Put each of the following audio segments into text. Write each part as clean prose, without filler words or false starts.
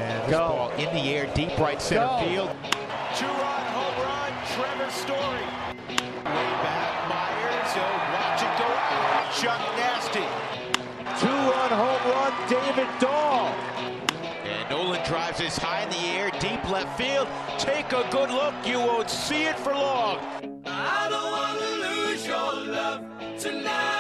And this ball in the air, deep right center field. Two-run home run, Trevor Story. Way back, Myers. Watch it go out. Chuck Nasty. Two-run home run, David Dahl. And Nolan drives this high in the air, deep left field. Take a good look. You won't see it for long. I don't want to lose your love tonight.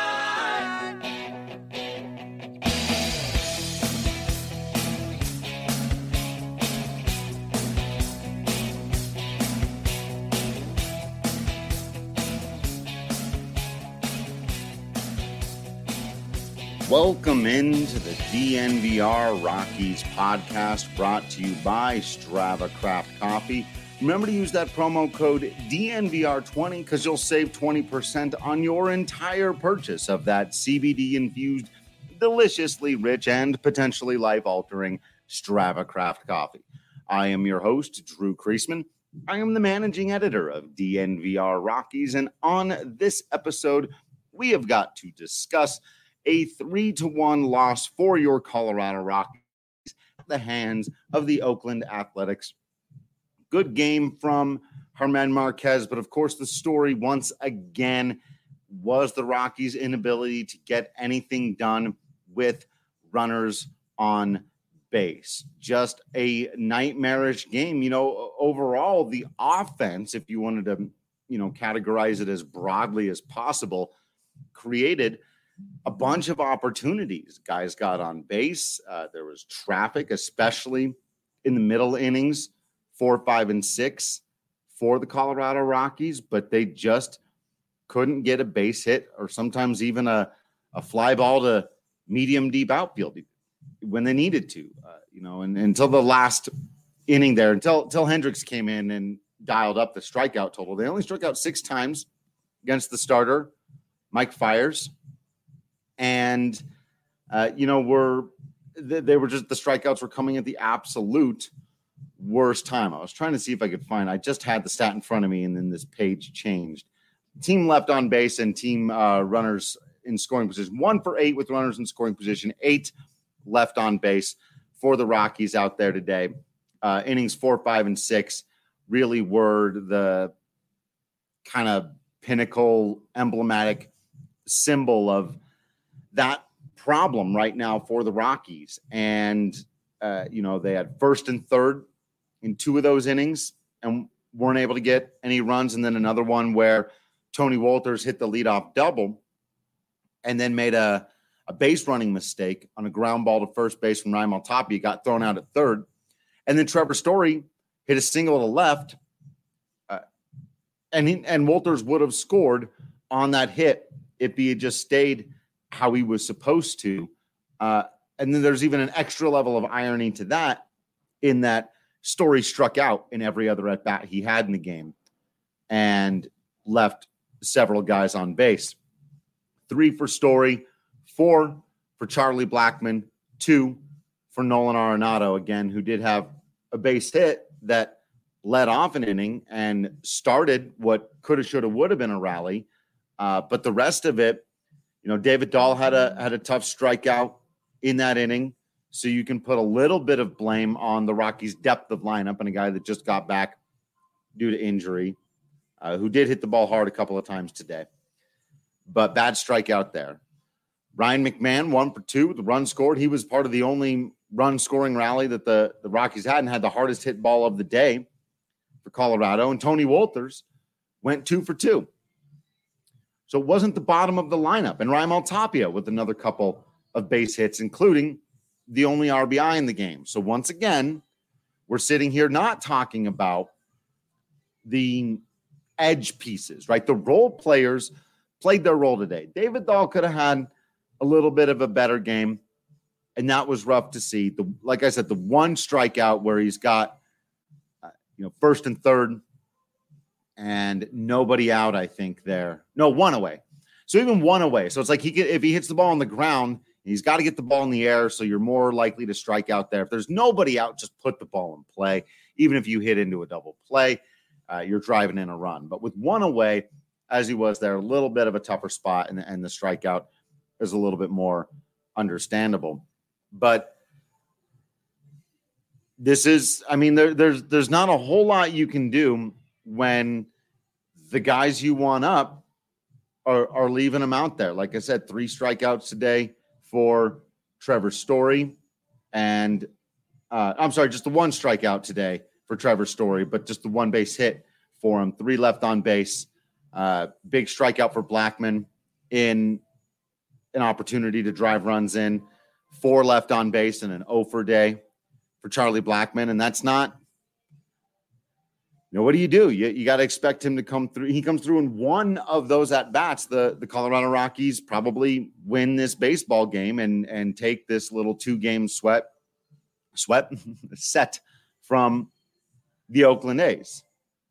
Welcome into the DNVR Rockies podcast, brought to you by Strava Craft Coffee. Remember to use that promo code DNVR20 because you'll save 20% on your entire purchase of that CBD-infused, deliciously rich, and potentially life-altering Strava Craft Coffee. I am your host, Drew Kreisman. I am the managing editor of DNVR Rockies, and on this episode, we have got to discuss a 3-1 loss for your Colorado Rockies at the hands of the Oakland Athletics. Good game from Germán Márquez, but of course the story once again was the Rockies' inability to get anything done with runners on base. Just a nightmarish game. Overall, the offense, if you wanted to, categorize it as broadly as possible, created a bunch of opportunities. Guys got on base. There was traffic, especially in the middle innings, 4, 5, and 6 for the Colorado Rockies, but they just couldn't get a base hit or sometimes even a fly ball to medium deep outfield when they needed to, and until the last inning there, until Hendricks came in and dialed up the strikeout total. They only struck out 6 times against the starter, Mike Fiers. And, they were just, the strikeouts were coming at the absolute worst time. I was trying to see if I could I just had the stat in front of me and then this page changed. Team left on base and team runners in scoring position. 1 for 8 with runners in scoring position, 8 left on base for the Rockies out there today. Innings 4, 5, and 6 really were the kind of pinnacle, emblematic symbol of that problem right now for the Rockies. And, they had first and third in 2 of those innings and weren't able to get any runs. And then another one where Tony Wolters hit the leadoff double and then made a base running mistake on a ground ball to first base from Ryan Maltapia, got thrown out at third. And then Trevor Story hit a single to left, and Wolters would have scored on that hit if he had just stayed how he was supposed to. And then there's even an extra level of irony to that, in that Story struck out in every other at-bat he had in the game and left several guys on base. 3 for Story, 4 for Charlie Blackmon, 2 for Nolan Arenado, again, who did have a base hit that led off an inning and started what could have, should have, would have been a rally. But the rest of it, David Dahl had a tough strikeout in that inning. So you can put a little bit of blame on the Rockies' depth of lineup and a guy that just got back due to injury, who did hit the ball hard a couple of times today. But bad strikeout there. Ryan McMahon, 1 for 2 with the run scored. He was part of the only run-scoring rally that the Rockies had and had the hardest hit ball of the day for Colorado. And Tony Wolters went 2 for 2. So it wasn't the bottom of the lineup. And Ryan Maltapia with another couple of base hits, including the only RBI in the game. So once again, we're sitting here not talking about the edge pieces, right? The role players played their role today. David Dahl could have had a little bit of a better game, and that was rough to see. Like I said, the one strikeout where he's got, first and third, and nobody out, I think there. No, 1 away. So even 1 away. So it's like if he hits the ball on the ground, he's got to get the ball in the air, so you're more likely to strike out there. If there's nobody out, just put the ball in play. Even if you hit into a double play, you're driving in a run. But with 1 away, as he was there, a little bit of a tougher spot, and the strikeout is a little bit more understandable. But this is, I mean, there's not a whole lot you can do when the guys you want up are leaving them out there. Like I said, 3 strikeouts today for Trevor Story. And just the 1 strikeout today for Trevor Story, but just the 1 base hit for him. 3 left on base. Big strikeout for Blackmon in an opportunity to drive runs in. 4 left on base and an 0 for day for Charlie Blackmon. And that's not, what do? You got to expect him to come through. He comes through in 1 of those at-bats. The Colorado Rockies probably win this baseball game and take this little 2-game set from the Oakland A's.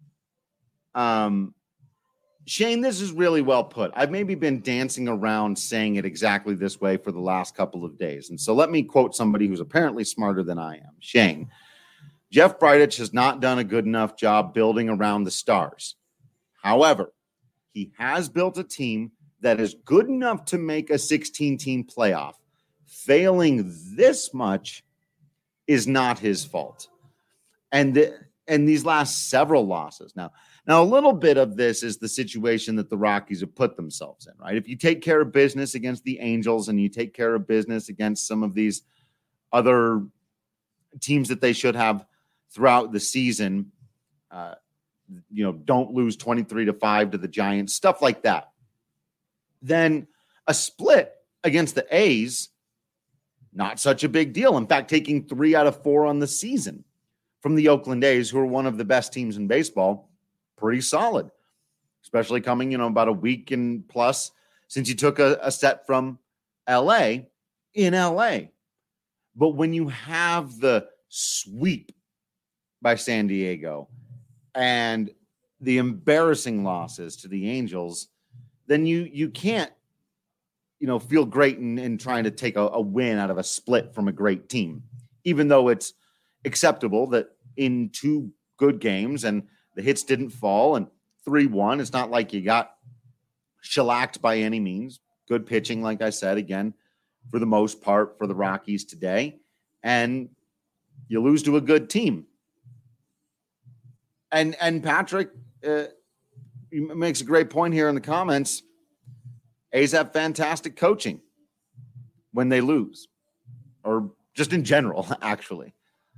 Shane, this is really well put. I've maybe been dancing around saying it exactly this way for the last couple of days. And so let me quote somebody who's apparently smarter than I am. Shane, Jeff Bridich has not done a good enough job building around the stars. However, he has built a team that is good enough to make a 16-team playoff. Failing this much is not his fault. And these last several losses. Now, a little bit of this is the situation that the Rockies have put themselves in, right? If you take care of business against the Angels and you take care of business against some of these other teams that they should have throughout the season, don't lose 23-5 to the Giants, stuff like that, then a split against the A's, not such a big deal. In fact, taking 3 out of 4 on the season from the Oakland A's, who are one of the best teams in baseball, pretty solid, especially coming, about a week and plus since you took a set from LA in LA. But when you have the sweep by San Diego and the embarrassing losses to the Angels, then you can't, feel great in trying to take a win out of a split from a great team, even though it's acceptable that in 2 good games and the hits didn't fall and 3-1. It's not like you got shellacked by any means. Good pitching, like I said, again, for the most part for the Rockies today. And you lose to a good team. And Patrick makes a great point here in the comments. A's have fantastic coaching when they lose, or just in general, actually.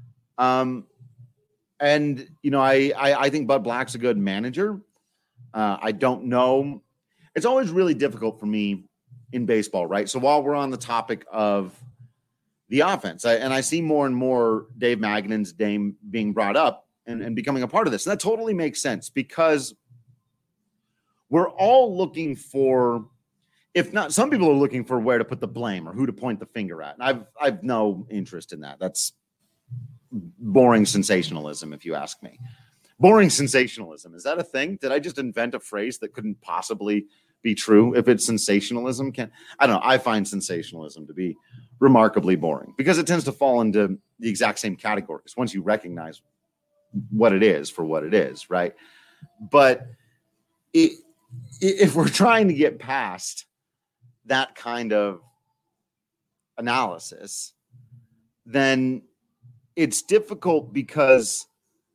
And, I think Bud Black's a good manager. I don't know. It's always really difficult for me in baseball, right? So while we're on the topic of the offense, I see more and more Dave Magnan's name being brought up and becoming a part of this. And that totally makes sense because we're all looking for, if not, some people are looking for where to put the blame or who to point the finger at. And I've no interest in that. That's boring sensationalism, if you ask me. Boring sensationalism. Is that a thing? Did I just invent a phrase that couldn't possibly be true? If it's sensationalism, I don't know. I find sensationalism to be remarkably boring because it tends to fall into the exact same categories once you recognize what it is for what it is, right? But if we're trying to get past that kind of analysis, then it's difficult because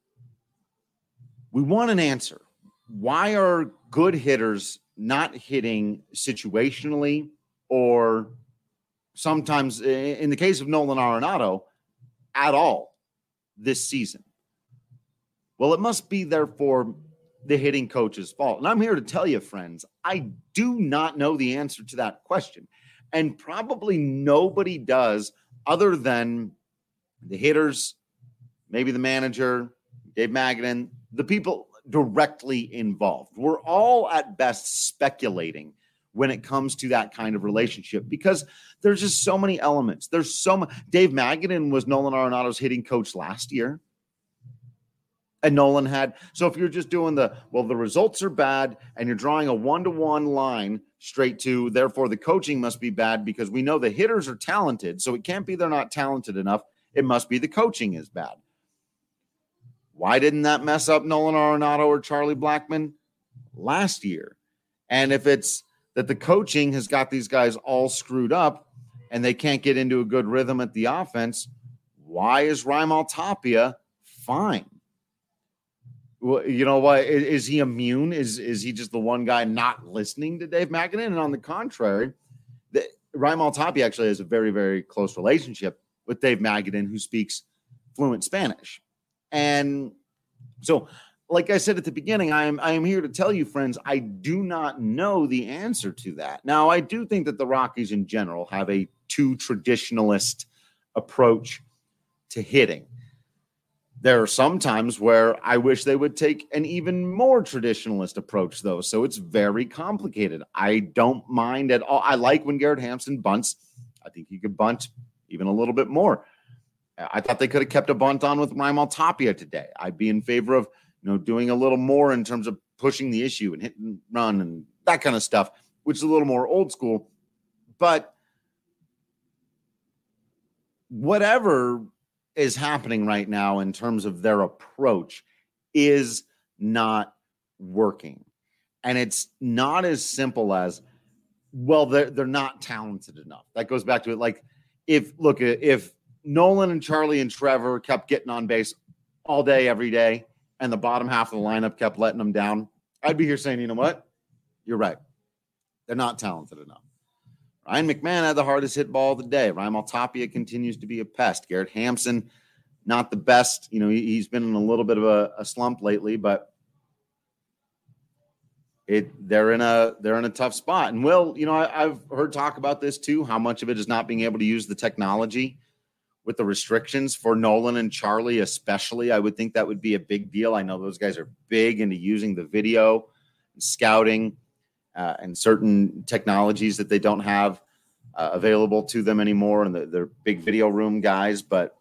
we want an answer. Why are good hitters not hitting situationally, or sometimes, in the case of Nolan Arenado, at all this season? Well, it must be, therefore, the hitting coach's fault. And I'm here to tell you, friends, I do not know the answer to that question. And probably nobody does other than the hitters, maybe the manager, Dave Magnan, the people directly involved. We're all at best speculating when it comes to that kind of relationship because there's just so many elements. There's so much. Dave Magnan was Nolan Arenado's hitting coach last year. And Nolan had. So if you're just doing the results are bad and you're drawing a 1-to-1 line straight to, therefore the coaching must be bad because we know the hitters are talented. So it can't be they're not talented enough. It must be the coaching is bad. Why didn't that mess up Nolan Arenado or Charlie Blackmon last year? And if it's that the coaching has got these guys all screwed up and they can't get into a good rhythm at the offense, why is Raimel Tapia fine? Well, you know what? Is he immune? Is he just the one guy not listening to Dave Magadan? And on the contrary, Raimel Tapia actually has a very, very close relationship with Dave Magadan, who speaks fluent Spanish. And so, like I said at the beginning, I am here to tell you, friends, I do not know the answer to that. Now, I do think that the Rockies in general have a too traditionalist approach to hitting. There are some times where I wish they would take an even more traditionalist approach, though. So it's very complicated. I don't mind at all. I like when Garrett Hampson bunts. I think he could bunt even a little bit more. I thought they could have kept a bunt on with Raimel Tapia today. I'd be in favor of, doing a little more in terms of pushing the issue and hit and run and that kind of stuff, which is a little more old school. But whatever is happening right now in terms of their approach is not working. And it's not as simple as, well, they're not talented enough. That goes back to it. Like, if Nolan and Charlie and Trevor kept getting on base all day, every day, and the bottom half of the lineup kept letting them down, I'd be here saying, you know what? You're right. They're not talented enough. Ryan McMahon had the hardest hit ball of the day. Raimel Tapia continues to be a pest. Garrett Hampson, not the best. He's been in a little bit of a slump lately, but they're in a tough spot. And Will, I've heard talk about this too, how much of it is not being able to use the technology with the restrictions for Nolan and Charlie, especially. I would think that would be a big deal. I know those guys are big into using the video and scouting and certain technologies that they don't have available to them anymore. And they're big video room guys, but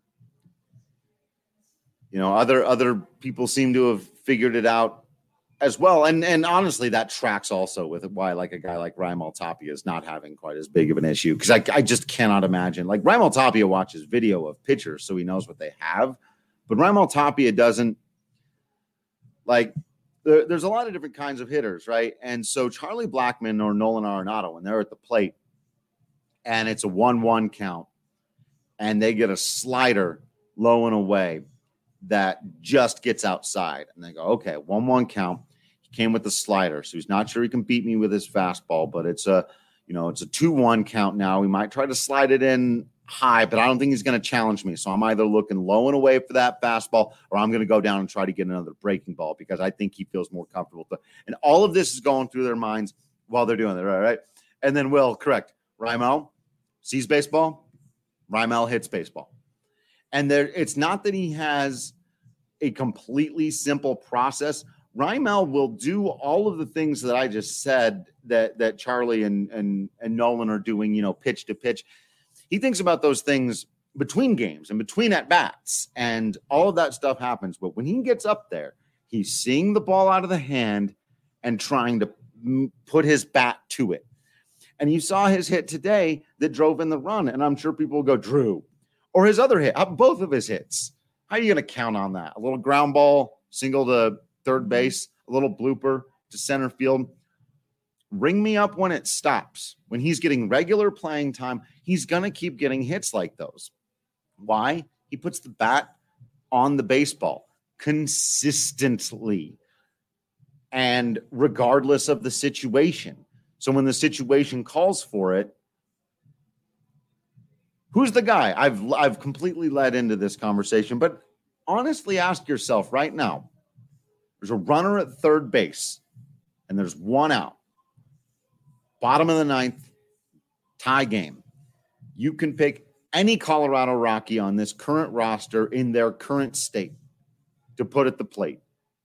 other people seem to have figured it out as well. And honestly, that tracks also with why like a guy like Raimel Tapia is not having quite as big of an issue. Because I just cannot imagine. Like, Raimel Tapia watches video of pitchers, so he knows what they have. But Raimel Tapia doesn't. Like, there's a lot of different kinds of hitters, right? And so Charlie Blackmon or Nolan Arenado, when they're at the plate and it's a 1-1 count and they get a slider low and away that just gets outside, and they go, okay, 1-1 count. He came with the slider, so he's not sure he can beat me with his fastball, but it's a 2-1 count now. We might try to slide it in high, but I don't think he's going to challenge me. So I'm either looking low and away for that fastball, or I'm going to go down and try to get another breaking ball because I think he feels more comfortable. And all of this is going through their minds while they're doing it, right? And then, Will, correct, Raimel sees baseball, Raimel hits baseball. And it's not that he has a completely simple process. Raimel will do all of the things that I just said that Charlie and Nolan are doing, pitch to pitch. He thinks about those things between games and between at-bats, and all of that stuff happens. But when he gets up there, he's seeing the ball out of the hand and trying to put his bat to it. And you saw his hit today that drove in the run, and I'm sure people will go, Drew, or his other hit, both of his hits. How are you going to count on that? A little ground ball, single to third base, a little blooper to center field. Ring me up when it stops. When he's getting regular playing time, he's going to keep getting hits like those. Why? He puts the bat on the baseball consistently and regardless of the situation. So when the situation calls for it, who's the guy? I've completely led into this conversation, but honestly ask yourself right now, there's a runner at third base and there's one out. Bottom of the ninth, tie game. You can pick any Colorado Rocky on this current roster in their current state to put at the plate.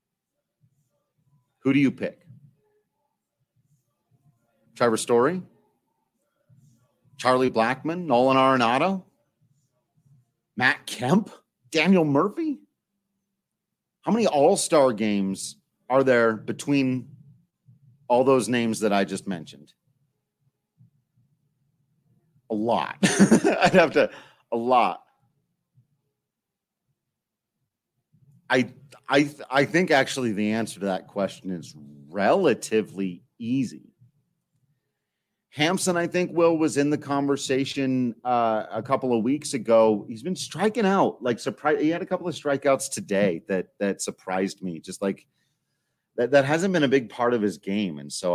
Who do you pick? Trevor Story? Charlie Blackmon? Nolan Arenado? Matt Kemp? Daniel Murphy? How many all-star games are there between all those names that I just mentioned? A lot. A lot. I think actually the answer to that question is relatively easy. Hampson, I think, Will, was in the conversation a couple of weeks ago. He's been striking out. Like, he had a couple of strikeouts today that surprised me. Just like that hasn't been a big part of his game. And so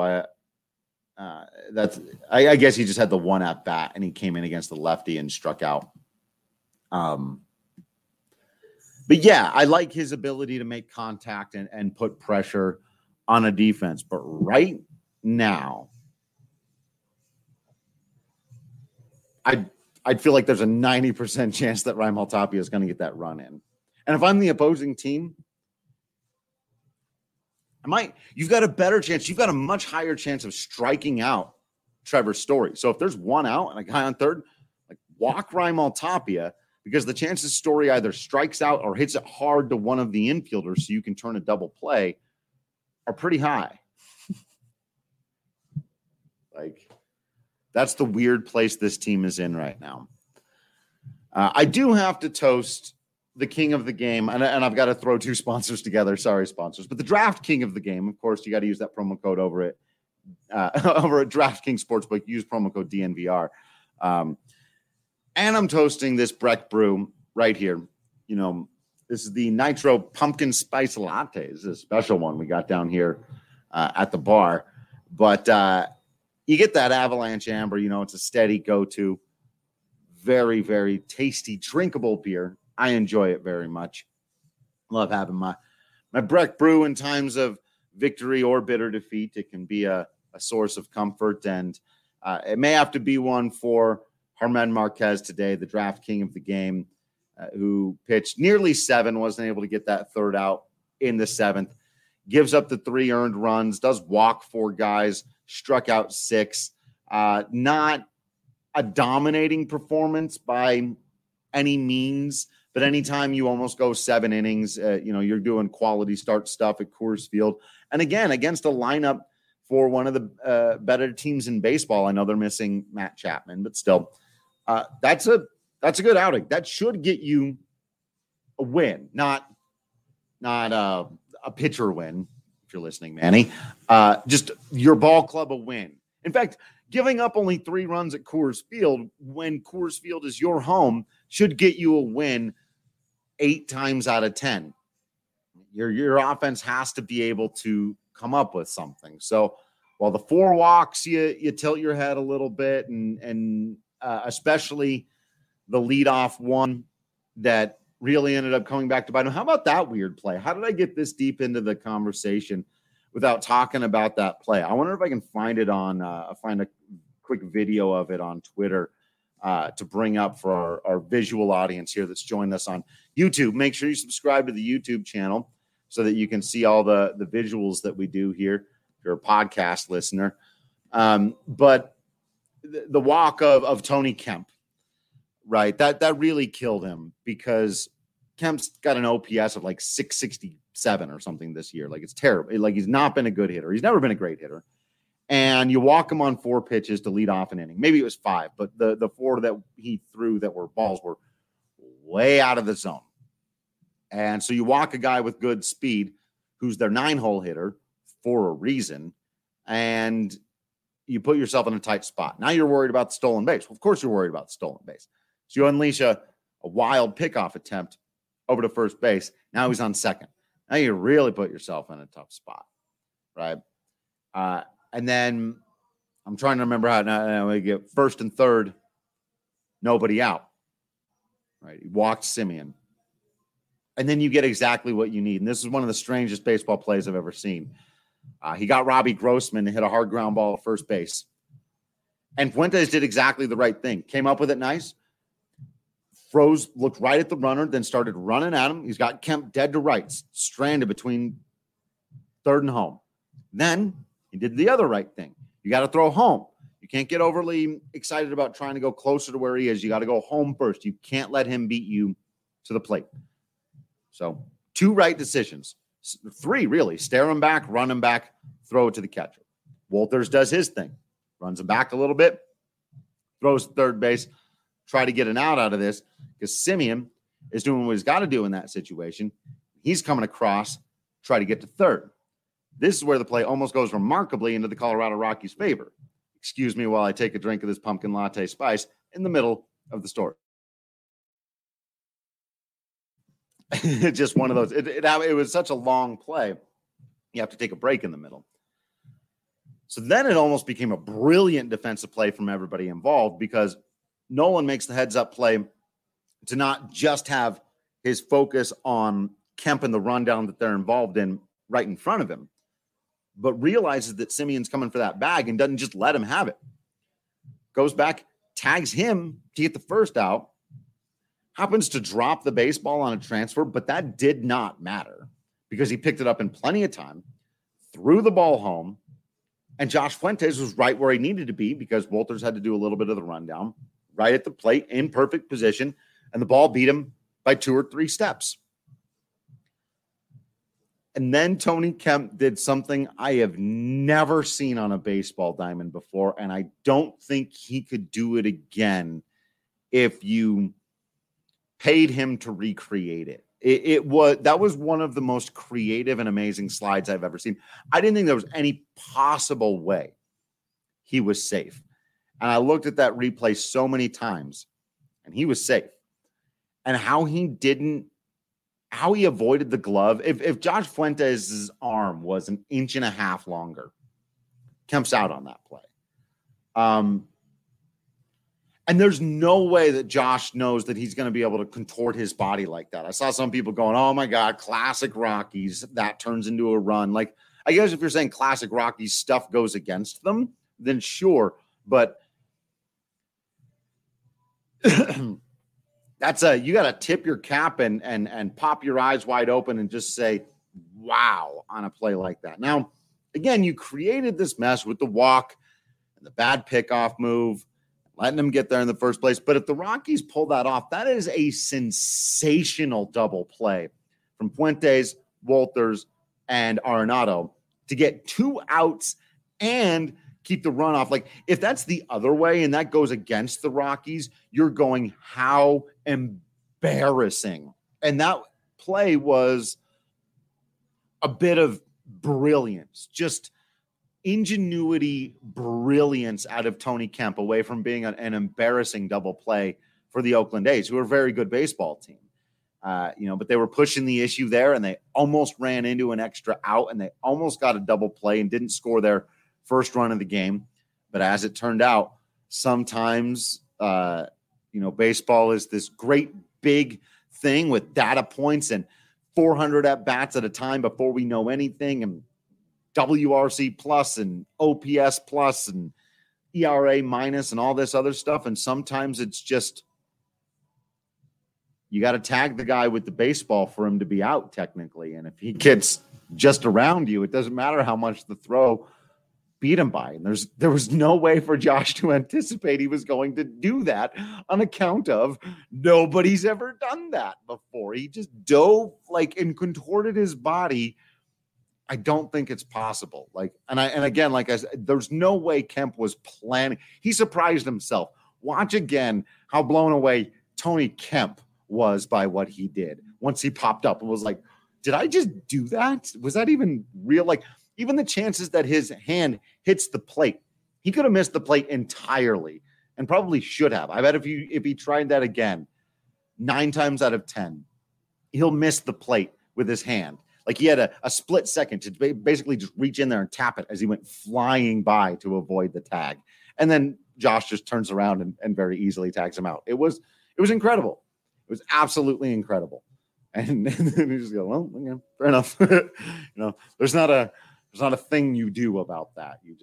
I guess he just had the one at bat and he came in against the lefty and struck out. But yeah, I like his ability to make contact and put pressure on a defense. But right now, I'd feel like there's a 90% chance that Raimel Tapia is going to get that run in. And if I'm the opposing team, you've got a better chance. You've got a much higher chance of striking out Trevor Story. So if there's one out and a guy on third, like, walk Raimel Tapia, because the chances Story either strikes out or hits it hard to one of the infielders so you can turn a double play are pretty high. Like, that's the weird place this team is in right now. I do have to toast the king of the game, and I've got to throw two sponsors together. Sorry, sponsors. But the draft king of the game, of course, you got to use that promo code over at DraftKings Sportsbook. Use promo code DNVR. And I'm toasting this Breck Brew right here. You know, this is the Nitro Pumpkin Spice Latte. This is a special one we got down here at the bar. But you get that Avalanche Amber. You know, it's a steady go-to. Very, very tasty, drinkable beer. I enjoy it very much. Love having my Breck Brew in times of victory or bitter defeat. It can be a source of comfort, and it may have to be one for Germán Márquez today, the draft king of the game, who pitched nearly 7, wasn't able to get that third out in the 7th, gives up the 3 earned runs, does walk 4 guys, struck out 6. Not a dominating performance by any means, but anytime you almost go 7 innings, you're doing quality start stuff at Coors Field. And again, against a lineup for one of the better teams in baseball. I know they're missing Matt Chapman, but still, that's a good outing. That should get you a win, not a pitcher win, if you're listening, Manny. Just your ball club a win. In fact, giving up only 3 runs at Coors Field when Coors Field is your home should get you a win 8 times out of 10. Your offense has to be able to come up with something. So while the 4 walks, you tilt your head a little bit, and especially the leadoff one that really ended up coming back to bite him. How about that weird play? How did I get this deep into the conversation without talking about that play? I wonder if I can find it find a quick video of it on Twitter to bring up for our visual audience here that's joined us on YouTube. Make sure you subscribe to the YouTube channel so that you can see all the visuals that we do here if you're a podcast listener. But the walk of Tony Kemp, right, that really killed him, because Kemp's got an OPS of like 667 or something this year. Like, it's terrible. Like, he's not been a good hitter. He's never been a great hitter. And you walk him on 4 pitches to lead off an inning. Maybe it was 5, but the 4 that he threw that were balls were way out of the zone. And so you walk a guy with good speed who's their 9-hole hitter for a reason, and you put yourself in a tight spot. Now you're worried about the stolen base. Well, of course you're worried about the stolen base. So you unleash a wild pickoff attempt over to first base. Now he's on second. Now you really put yourself in a tough spot, right? And then I'm trying to remember how now we get first and third, nobody out, right? He walked Simeon. And then you get exactly what you need. And this is one of the strangest baseball plays I've ever seen. He got Robbie Grossman to hit a hard ground ball at first base. And Fuentes did exactly the right thing. Came up with it nice. Froze, looked right at the runner, then started running at him. He's got Kemp dead to rights, stranded between third and home. Then he did the other right thing. You got to throw home. You can't get overly excited about trying to go closer to where he is. You got to go home first. You can't let him beat you to the plate. So 2 right decisions. 3, really. Stare him back, run him back, throw it to the catcher. Walters does his thing. Runs him back a little bit, throws third base, try to get an out of this, because Simeon is doing what he's got to do in that situation. He's coming across, try to get to third. This is where the play almost goes remarkably into the Colorado Rockies' favor, excuse me while I take a drink of this pumpkin latte spice in the middle of the story. Just one of those. It was such a long play. You have to take a break in the middle. So then it almost became a brilliant defensive play from everybody involved, because Nolan makes the heads up play to not just have his focus on Kemp and the rundown that they're involved in right in front of him, but realizes that Simeon's coming for that bag and doesn't just let him have it. Goes back, tags him to get the first out, happens to drop the baseball on a transfer, but that did not matter because he picked it up in plenty of time, threw the ball home, and Josh Fuentes was right where he needed to be because Wolters had to do a little bit of the rundown, right at the plate, in perfect position, and the ball beat him by 2 or 3 steps. And then Tony Kemp did something I have never seen on a baseball diamond before, and I don't think he could do it again if you paid him to recreate it. That was one of the most creative and amazing slides I've ever seen. I didn't think there was any possible way he was safe. And I looked at that replay so many times, and he was safe. And how he avoided the glove. If Josh Fuentes' arm was 1.5 inches longer, Kemp's out on that play. And there's no way that Josh knows that he's going to be able to contort his body like that. I saw some people going, oh my God, classic Rockies. That turns into a run. Like, I guess if you're saying classic Rockies stuff goes against them, then sure. But that's you got to tip your cap and pop your eyes wide open and just say, wow, on a play like that. Now, again, you created this mess with the walk and the bad pickoff move, letting them get there in the first place. But if the Rockies pull that off, that is a sensational double play from Fuentes, Wolters, and Arenado to get 2 outs and keep the runoff. Like, if that's the other way and that goes against the Rockies, you're going, how embarrassing. And that play was a bit of brilliance, just ingenuity, brilliance out of Tony Kemp, away from being an embarrassing double play for the Oakland A's, who are a very good baseball team. But they were pushing the issue there, and they almost ran into an extra out, and they almost got a double play and didn't score their first run of the game. But as it turned out, sometimes, baseball is this great big thing with data points and 400 at-bats at a time before we know anything, and WRC plus and OPS plus and ERA minus and all this other stuff. And sometimes it's just, you got to tag the guy with the baseball for him to be out technically. And if he gets just around you, it doesn't matter how much the throw beat him by. And there was no way for Josh to anticipate he was going to do that on account of nobody's ever done that before. He just dove and contorted his body. I don't think it's possible. And again, like I said, there's no way Kemp was planning. He surprised himself. Watch again how blown away Tony Kemp was by what he did once he popped up and was like, did I just do that? Was that even real? Even the chances that his hand hits the plate, he could have missed the plate entirely and probably should have. I bet if he tried that again, 9 times out of 10, he'll miss the plate with his hand. He had a split second to basically just reach in there and tap it as he went flying by to avoid the tag. And then Josh just turns around and very easily tags him out. It was incredible. It was absolutely incredible. And then you just go, well, yeah, fair enough. There's not a thing you do about that. You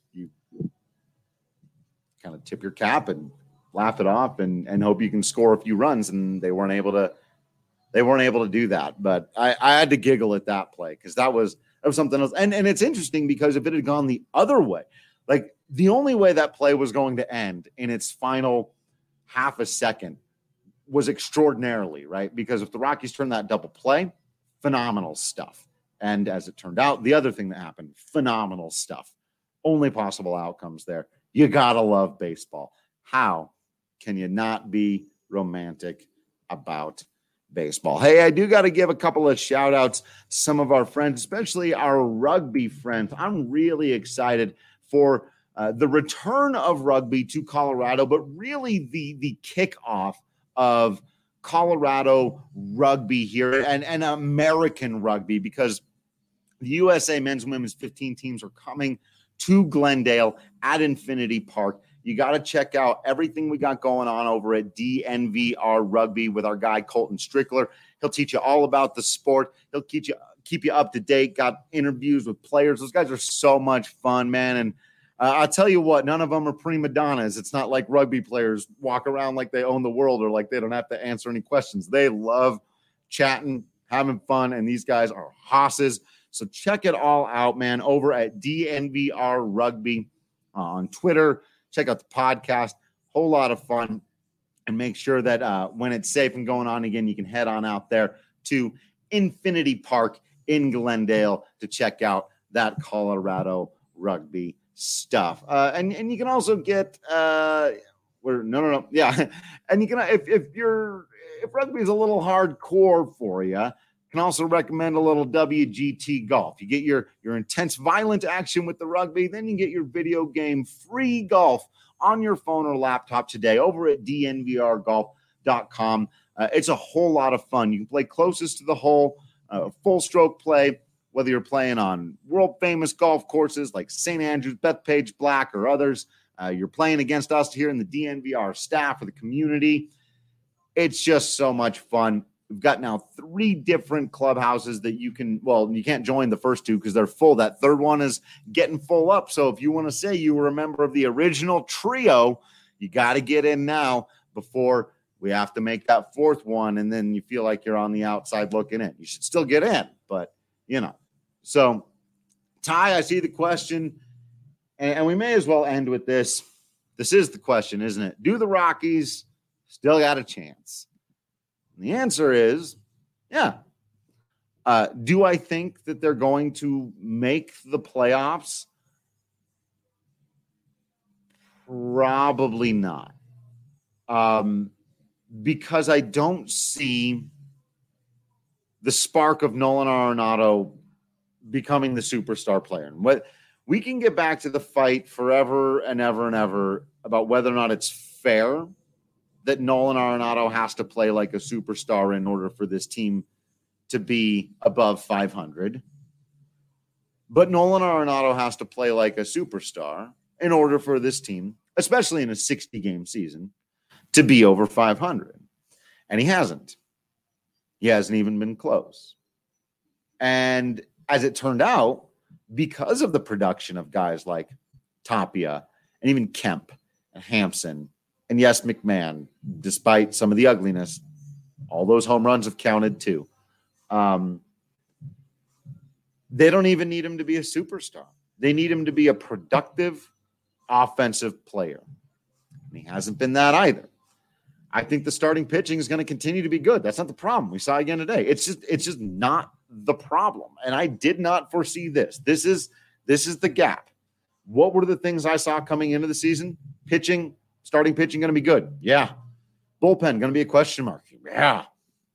kind of tip your cap and laugh it off and hope you can score a few runs. And they weren't able to do that. But I had to giggle at that play because that was something else. And it's interesting because if it had gone the other way, the only way that play was going to end in its final half a second was extraordinarily, right? Because if the Rockies turned that double play, phenomenal stuff. And as it turned out, the other thing that happened, phenomenal stuff. Only possible outcomes there. You gotta love baseball. How can you not be romantic about baseball? Hey, I do got to give a couple of shout outs to some of our friends, especially our rugby friends. I'm really excited for the return of rugby to Colorado, but really the kickoff of Colorado rugby here and American rugby, because the USA men's and women's 15 teams are coming to Glendale at Infinity Park. You got to check out everything we got going on over at DNVR Rugby with our guy Colton Strickler. He'll teach you all about the sport. He'll keep you up to date. Got interviews with players. Those guys are so much fun, man. And I'll tell you what, none of them are prima donnas. It's not like rugby players walk around like they own the world or like they don't have to answer any questions. They love chatting, having fun, and these guys are hosses. So check it all out, man, over at DNVR Rugby on Twitter. Check out the podcast. Whole lot of fun. And make sure that when it's safe and going on again, you can head on out there to Infinity Park in Glendale to check out that Colorado rugby stuff. And you can also get Yeah. And you can if rugby is a little hardcore for you, can also recommend a little WGT golf. You get your intense violent action with the rugby, then you get your video game free golf on your phone or laptop today over at dnvrgolf.com. It's a whole lot of fun. You can play closest to the hole, full stroke play, whether you're playing on world famous golf courses like St. Andrews, Bethpage Black, or others. You're playing against us here in the DNVR staff or the community. It's just so much fun. We've got now 3 different clubhouses that you can't join the first 2 because they're full. That third one is getting full up. So if you want to say you were a member of the original trio, you got to get in now before we have to make that 4th one. And then you feel like you're on the outside looking in. You should still get in, but So Ty, I see the question, and we may as well end with this. This is the question, isn't it? Do the Rockies still got a chance? And the answer is, yeah. Do I think that they're going to make the playoffs? Probably not. Because I don't see the spark of Nolan Arenado becoming the superstar player. And what we can get back to the fight forever and ever and ever about whether or not it's fair that Nolan Arenado has to play like a superstar in order for this team to be above 500. But Nolan Arenado has to play like a superstar in order for this team, especially in a 60-game season, to be over 500. And he hasn't. He hasn't even been close. And as it turned out, because of the production of guys like Tapia and even Kemp and Hampson, and yes, McMahon, despite some of the ugliness, all those home runs have counted too. They don't even need him to be a superstar. They need him to be a productive offensive player. And he hasn't been that either. I think the starting pitching is going to continue to be good. That's not the problem. We saw again today. It's just not the problem. And I did not foresee this. This is the gap. What were the things I saw coming into the season? Pitching, starting pitching going to be good. Yeah. Bullpen going to be a question mark. Yeah.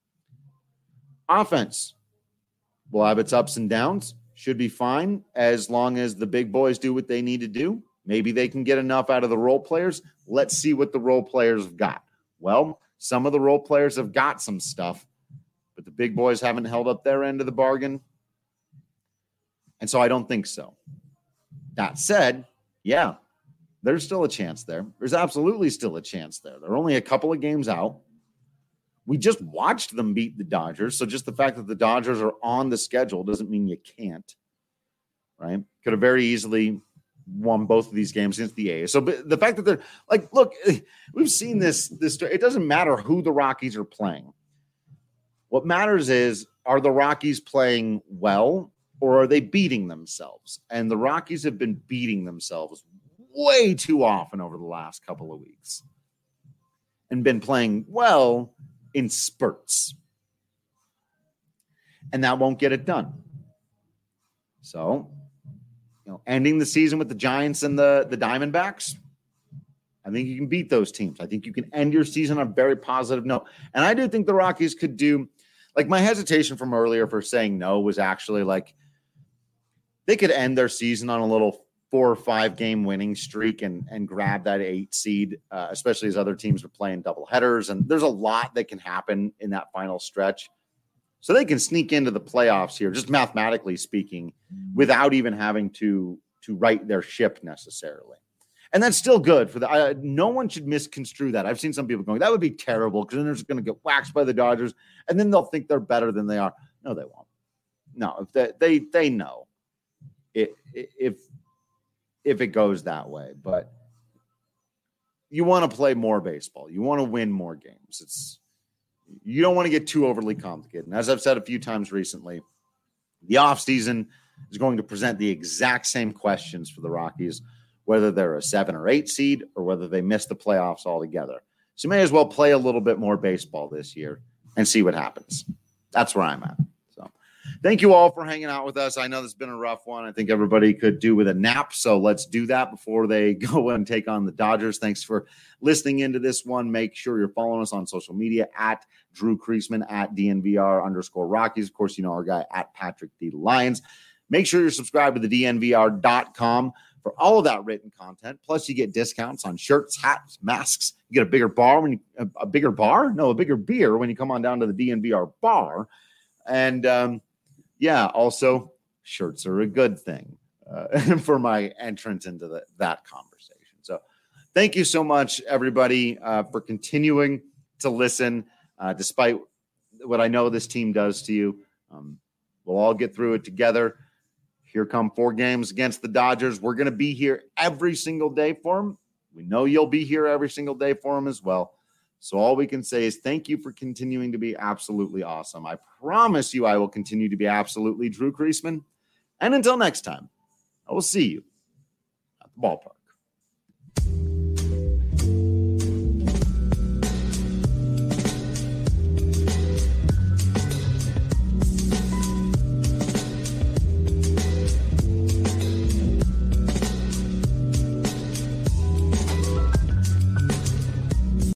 Offense will have its ups and downs. Should be fine as long as the big boys do what they need to do. Maybe they can get enough out of the role players. Let's see what the role players have got. Well, some of the role players have got some stuff, but the big boys haven't held up their end of the bargain. And so I don't think so. That said, yeah, there's still a chance there. There's absolutely still a chance there. They're only a couple of games out. We just watched them beat the Dodgers. So just the fact that the Dodgers are on the schedule doesn't mean you can't, right? Could have very easily won both of these games against the A's. So the fact that they're like, look, we've seen this, it doesn't matter who the Rockies are playing. What matters is, are the Rockies playing well or are they beating themselves? And the Rockies have been beating themselves way too often over the last couple of weeks and been playing well in spurts. And that won't get it done. So, ending the season with the Giants and the Diamondbacks, I think you can beat those teams. I think you can end your season on a very positive note. And I do think the Rockies could do, like, my hesitation from earlier for saying no was actually like they could end their season on a little 4 or 5 game winning streak and grab that 8 seed, especially as other teams are playing double headers. And there's a lot that can happen in that final stretch. So they can sneak into the playoffs here, just mathematically speaking, without even having to right their ship necessarily. And that's still good for the. No one should misconstrue that. I've seen some people going, that would be terrible because then they're just going to get waxed by the Dodgers, and then they'll think they're better than they are. No, they won't. No, if they know if it goes that way, but you want to play more baseball. You want to win more games. You don't want to get too overly complicated. And as I've said a few times recently, the offseason is going to present the exact same questions for the Rockies, whether they're a 7 or 8 seed or whether they miss the playoffs altogether. So you may as well play a little bit more baseball this year and see what happens. That's where I'm at. So thank you all for hanging out with us. I know this has been a rough one. I think everybody could do with a nap. So let's do that before they go and take on the Dodgers. Thanks for listening into this one. Make sure you're following us on social media at Drew Creasman, at DNVR_Rockies. Of course, you know our guy at Patrick D. Lions. Make sure you're subscribed to the DNVR.com for all of that written content. Plus, you get discounts on shirts, hats, masks. You get a bigger beer when you come on down to the DNVR bar. And also shirts are a good thing for my entrance into that conversation. So thank you so much, everybody, for continuing to listen, despite what I know this team does to you. We'll all get through it together. Here come 4 games against the Dodgers. We're going to be here every single day for them. We know you'll be here every single day for them as well. So all we can say is thank you for continuing to be absolutely awesome. I promise you I will continue to be absolutely Drew Creasman. And until next time, I will see you at the ballpark.